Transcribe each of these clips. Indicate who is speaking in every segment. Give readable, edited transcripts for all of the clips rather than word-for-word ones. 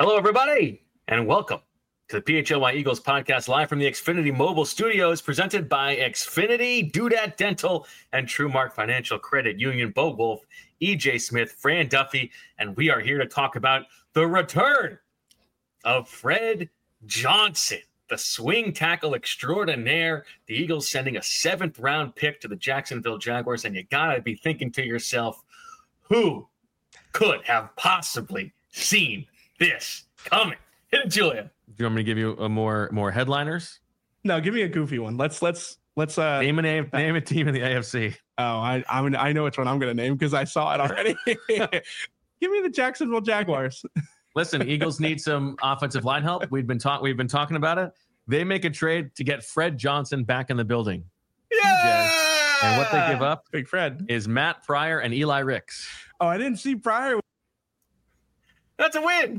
Speaker 1: Hello, everybody, and welcome to the PHLY Eagles podcast live from the Xfinity Mobile Studios, presented by Xfinity, Dudat Dental, and TrueMark Financial Credit Union. Bo Wolf, EJ Smith, Fran Duffy, and we are here to talk about the return of Fred Johnson, the swing tackle extraordinaire. The Eagles sending a 7th-round pick to the Jacksonville Jaguars, and you gotta be thinking to yourself, who could have possibly seen this coming? Hit it, Julia.
Speaker 2: Do you want me to give you a more headliners?
Speaker 3: No, give me a goofy one. Let's
Speaker 2: name a team in the AFC.
Speaker 3: Oh, I know which one I'm going to name because I saw it already. Give me the Jacksonville Jaguars.
Speaker 2: Listen, Eagles need some offensive line help. We've been talking about it. They make a trade to get Fred Johnson back in the building.
Speaker 3: Yeah.
Speaker 2: And what they give up,
Speaker 3: Big Fred,
Speaker 2: is Matt Pryor and Eli Ricks.
Speaker 3: Oh, I didn't see Pryor.
Speaker 1: That's a win.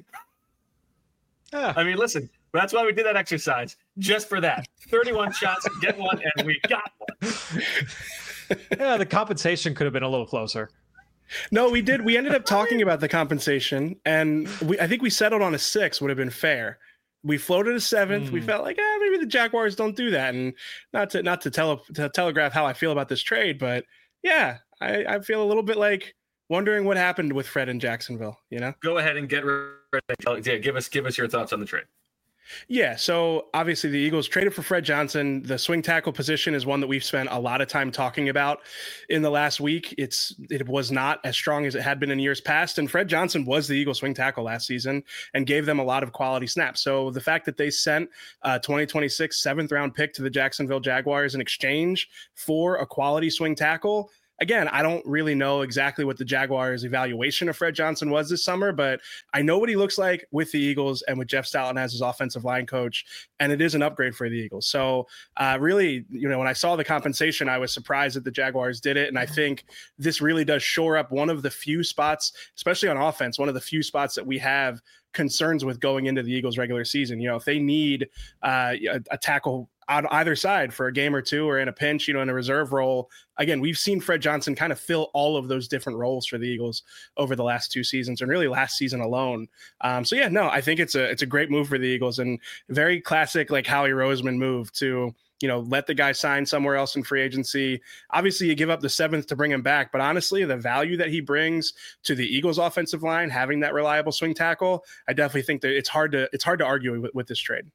Speaker 2: Yeah.
Speaker 1: I mean, listen, that's why we did that exercise. Just for that. 31 shots, get one, and we got one.
Speaker 4: Yeah, the compensation could have been a little closer.
Speaker 3: No, we did. We ended up talking about the compensation, and I think we settled on a 6 would have been fair. We floated a 7th. We felt like, maybe the Jaguars don't do that. And not to telegraph how I feel about this trade, but yeah, I feel a little bit like wondering what happened with Fred in Jacksonville, you know?
Speaker 1: Go ahead and get ready. Yeah, give us your thoughts on the trade.
Speaker 3: Yeah, so obviously the Eagles traded for Fred Johnson. The swing tackle position is one that we've spent a lot of time talking about in the last week. It was not as strong as it had been in years past, and Fred Johnson was the Eagles swing tackle last season and gave them a lot of quality snaps. So the fact that they sent a 2026 7th-round pick to the Jacksonville Jaguars in exchange for a quality swing tackle, again, I don't really know exactly what the Jaguars' evaluation of Fred Johnson was this summer, but I know what he looks like with the Eagles and with Jeff Stoutland as his offensive line coach, and it is an upgrade for the Eagles. So really, when I saw the compensation, I was surprised that the Jaguars did it, and I think this really does shore up one of the few spots, especially on offense, one of the few spots that we have concerns with going into the Eagles regular season. If they need a tackle on either side for a game or two or in a pinch, in a reserve role. Again, we've seen Fred Johnson kind of fill all of those different roles for the Eagles over the last 2 seasons and really last season alone. I think it's a great move for the Eagles and very classic, like Howie Roseman move to, let the guy sign somewhere else in free agency. Obviously you give up the 7th to bring him back, but honestly, the value that he brings to the Eagles offensive line, having that reliable swing tackle, I definitely think that it's hard to argue with this trade.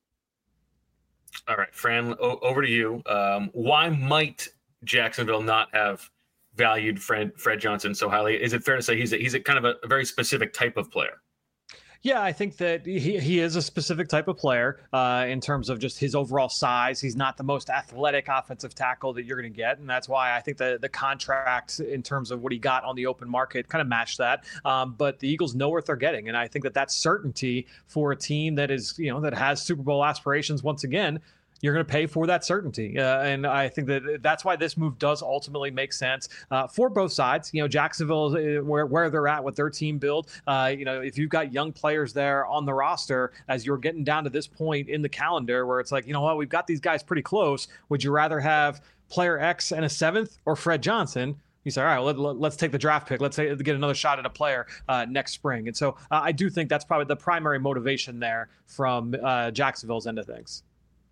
Speaker 1: All right, Fran, over to you. Why might Jacksonville not have valued Fred Johnson so highly? Is it fair to say he's a kind of a very specific type of player?
Speaker 4: Yeah, I think that he is a specific type of player in terms of just his overall size. He's not the most athletic offensive tackle that you're going to get, and that's why I think the contract in terms of what he got on the open market kind of matched that. But the Eagles know what they're getting, and I think that that's certainty for a team that is, that has Super Bowl aspirations once again. You're going to pay for that certainty. And I think that's why this move does ultimately make sense for both sides. Jacksonville, where they're at with their team build, if you've got young players there on the roster, as you're getting down to this point in the calendar where it's like, we've got these guys pretty close. Would you rather have player X and a 7th or Fred Johnson? You say, all right, let's take the draft pick. Let's get another shot at a player next spring. And so I do think that's probably the primary motivation there from Jacksonville's end of things.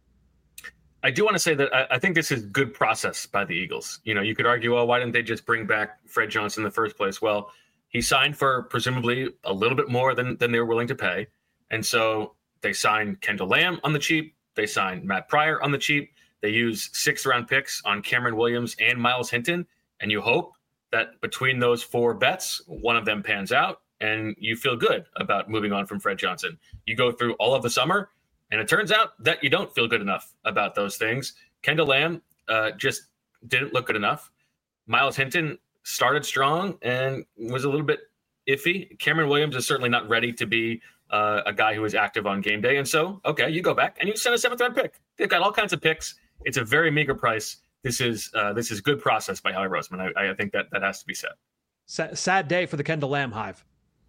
Speaker 1: I do want to say that I think this is good process by the Eagles. You could argue, well, why didn't they just bring back Fred Johnson in the first place? Well, he signed for presumably a little bit more than they were willing to pay. And so they signed Kendall Lamb on the cheap. They signed Matt Pryor on the cheap. They use 6th-round picks on Cameron Williams and Myles Hinton. And you hope that between those 4 bets, one of them pans out and you feel good about moving on from Fred Johnson. You go through all of the summer, and it turns out that you don't feel good enough about those things. Kendall Lamb just didn't look good enough. Myles Hinton started strong and was a little bit iffy. Cameron Williams is certainly not ready to be a guy who is active on game day. And so, okay, you go back and you send a 7th-round pick. They've got all kinds of picks. It's a very meager price. This is good process by Howie Roseman. I think that has to be said.
Speaker 4: Sad day for the Kendall Lamb hive.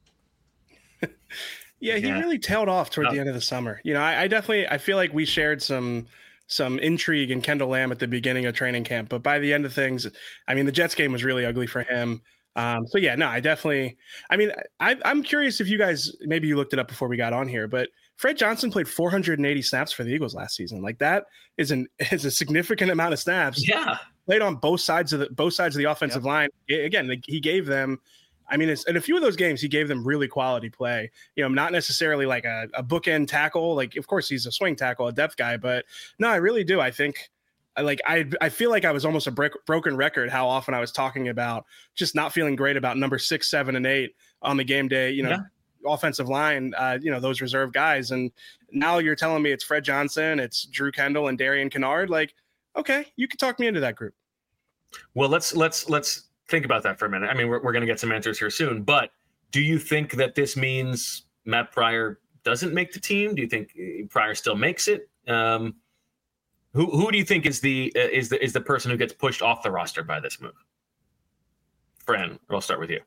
Speaker 3: Yeah, he really tailed off toward the end of the summer. I feel like we shared some intrigue in Kendall Lamb at the beginning of training camp, but by the end of things, I mean, the Jets game was really ugly for him. So yeah, no, I'm curious if you guys, maybe you looked it up before we got on here, but Fred Johnson played 480 snaps for the Eagles last season. Like that is a significant amount of snaps.
Speaker 1: Yeah.
Speaker 3: Played on both sides of the offensive line. Again, he gave them, in a few of those games, he gave them really quality play. Not necessarily like a bookend tackle. Like, of course, he's a swing tackle, a depth guy, but no, I really do. I think, I feel like I was almost a broken record how often I was talking about just not feeling great about number 6, 7, and 8 on the game day. Offensive line, those reserve guys, and now you're telling me it's Fred Johnson, it's Drew Kendall, and Darian Kinnard. Like, okay, you can talk me into that group.
Speaker 1: Well, let's think about that for a minute. I mean, we're going to get some answers here soon, but do you think that this means Matt Pryor doesn't make the team? Do you think Pryor still makes it? Who do you think is the person who gets pushed off the roster by this move? Fran, I'll start with you.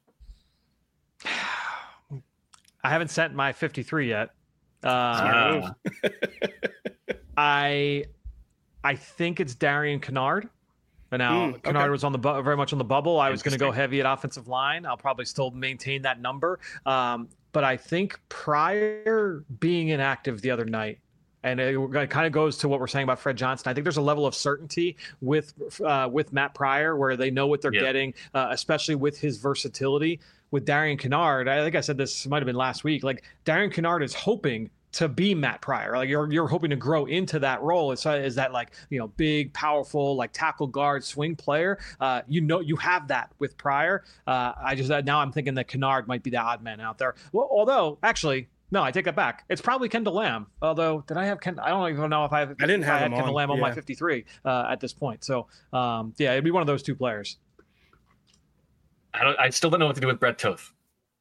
Speaker 4: I haven't sent my 53 yet. I think it's Darian Kinnard. But now Kinnard was very much on the bubble. I was going to go heavy at offensive line. I'll probably still maintain that number. But I think Pryor being inactive the other night, and it kind of goes to what we're saying about Fred Johnson. I think there's a level of certainty with Matt Pryor where they know what they're getting, especially with his versatility. With Darian Kinnard, I think I said this might have been last week. Like Darian Kinnard is hoping to be Matt Pryor. Like you're hoping to grow into that role. Is that like, big, powerful, like tackle guard swing player. You have that with Pryor. Now I'm thinking that Kinnard might be the odd man out there. Well, although actually, no, I take that back. It's probably Kendall Lamb. Although, did I have Kendall? I don't even know if I didn't have Kendall Lamb on my 53 at this point. So it'd be one of those two players.
Speaker 1: I still don't know what to do with Brett Toth.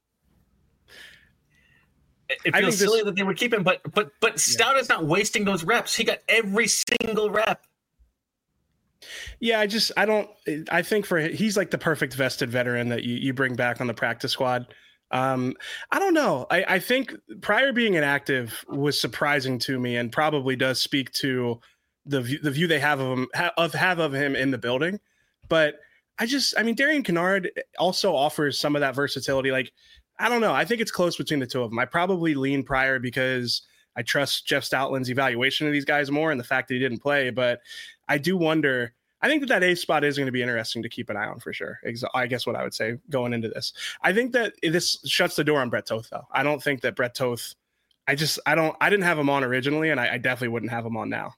Speaker 1: It feels silly that they would keep him, but Stout is not wasting those reps. He got every single rep.
Speaker 3: Yeah, I think he's like the perfect vested veteran that you bring back on the practice squad. I don't know. I think Pryor being inactive was surprising to me and probably does speak to the view they have of him in the building. But Darian Kinnard also offers some of that versatility. Like, I don't know. I think it's close between the two of them. I probably lean Pryor because I trust Jeff Stoutland's evaluation of these guys more and the fact that he didn't play. But I do wonder. I think that eighth spot is going to be interesting to keep an eye on for sure. I guess what I would say going into this. I think that this shuts the door on Brett Toth, though. I don't think that Brett Toth. I didn't have him on originally, and I definitely wouldn't have him on now.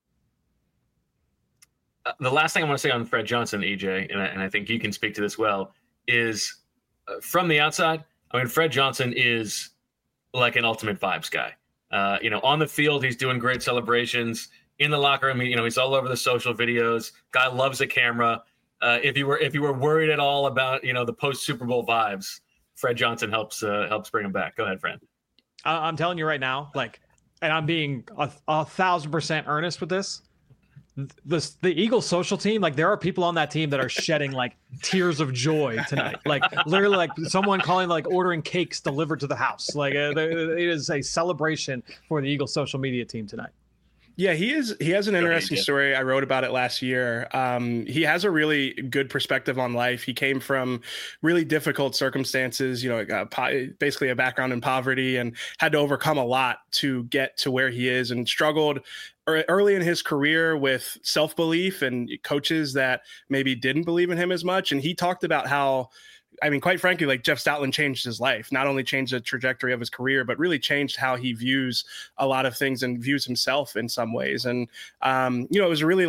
Speaker 1: The last thing I want to say on Fred Johnson, EJ, and I think you can speak to this well, is from the outside. I mean, Fred Johnson is like an ultimate vibes guy. On the field, he's doing great celebrations. In the locker room, he's all over the social videos. Guy loves a camera. If you were worried at all about the post Super Bowl vibes, Fred Johnson helps bring him back. Go ahead, Fred.
Speaker 4: I'm telling you right now, and I'm being 1,000% earnest with this. The Eagles social team, there are people on that team that are shedding tears of joy tonight. Literally someone calling ordering cakes delivered to the house. It is a celebration for the Eagles social media team tonight.
Speaker 3: Yeah, he has an interesting story. I wrote about it last year. He has a really good perspective on life. He came from really difficult circumstances, basically a background in poverty, and had to overcome a lot to get to where he is, and struggled early in his career with self-belief and coaches that maybe didn't believe in him as much. And he talked about how, quite frankly, Jeff Stoutland changed his life, not only changed the trajectory of his career, but really changed how he views a lot of things and views himself in some ways. And, it was a really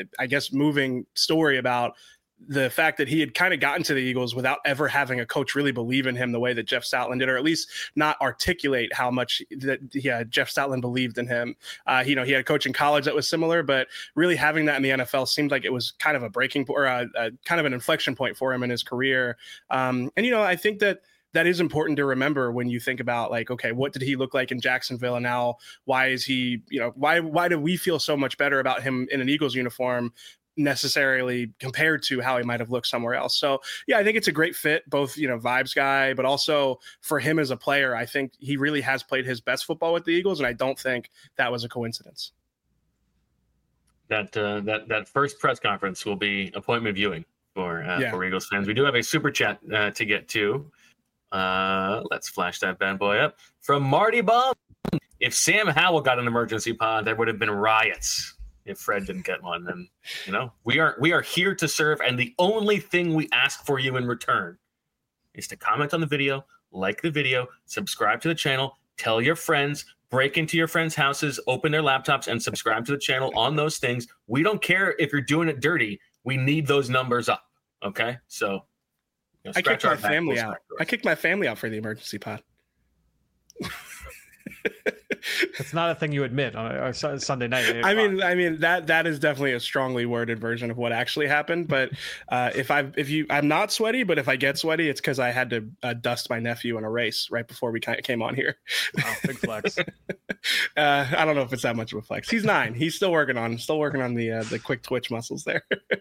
Speaker 3: moving story about the fact that he had kind of gotten to the Eagles without ever having a coach really believe in him the way that Jeff Stoutland did, or at least not articulate how much that Jeff Stoutland believed in him. He had a coach in college that was similar, but really having that in the NFL seemed like it was kind of a breaking point, or a kind of an inflection point for him in his career. I think that is important to remember when you think about okay, what did he look like in Jacksonville, and now why is he, why do we feel so much better about him in an Eagles uniform necessarily compared to how he might have looked somewhere else. So yeah, I think it's a great fit, both, vibes guy, but also for him as a player, I think he really has played his best football with the Eagles. And I don't think that was a coincidence.
Speaker 1: That first press conference will be appointment viewing for Eagles fans. We do have a super chat to get to. Let's flash that bad boy up from Marty Bum. If Sam Howell got an emergency pod, there would have been riots. If Fred didn't get one, then we are here to serve, and the only thing we ask for you in return is to comment on the video, like the video, subscribe to the channel, tell your friends, break into your friends' houses, open their laptops, and subscribe to the channel on those things. We don't care if you're doing it dirty. We need those numbers up. Okay, so
Speaker 3: I kicked my family out. I kicked my family out for the emergency pod.
Speaker 4: It's not a thing you admit on a Sunday night.
Speaker 3: I mean that is definitely a strongly worded version of what actually happened. But I'm not sweaty, but if I get sweaty, it's because I had to dust my nephew in a race right before we came on here.
Speaker 4: Wow, big flex.
Speaker 3: I don't know if it's that much of a flex. He's 9. He's still working on the quick twitch muscles there.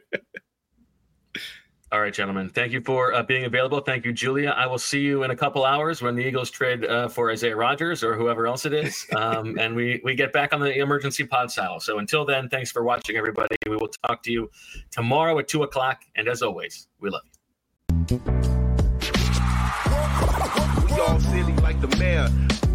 Speaker 1: All right, gentlemen. Thank you for being available. Thank you, Julia. I will see you in a couple hours when the Eagles trade for Isaiah Rodgers or whoever else it is, and we get back on the emergency pod saddle. So until then, thanks for watching, everybody. We will talk to you tomorrow at 2:00. And as always, we love you.
Speaker 5: We all silly like the mayor.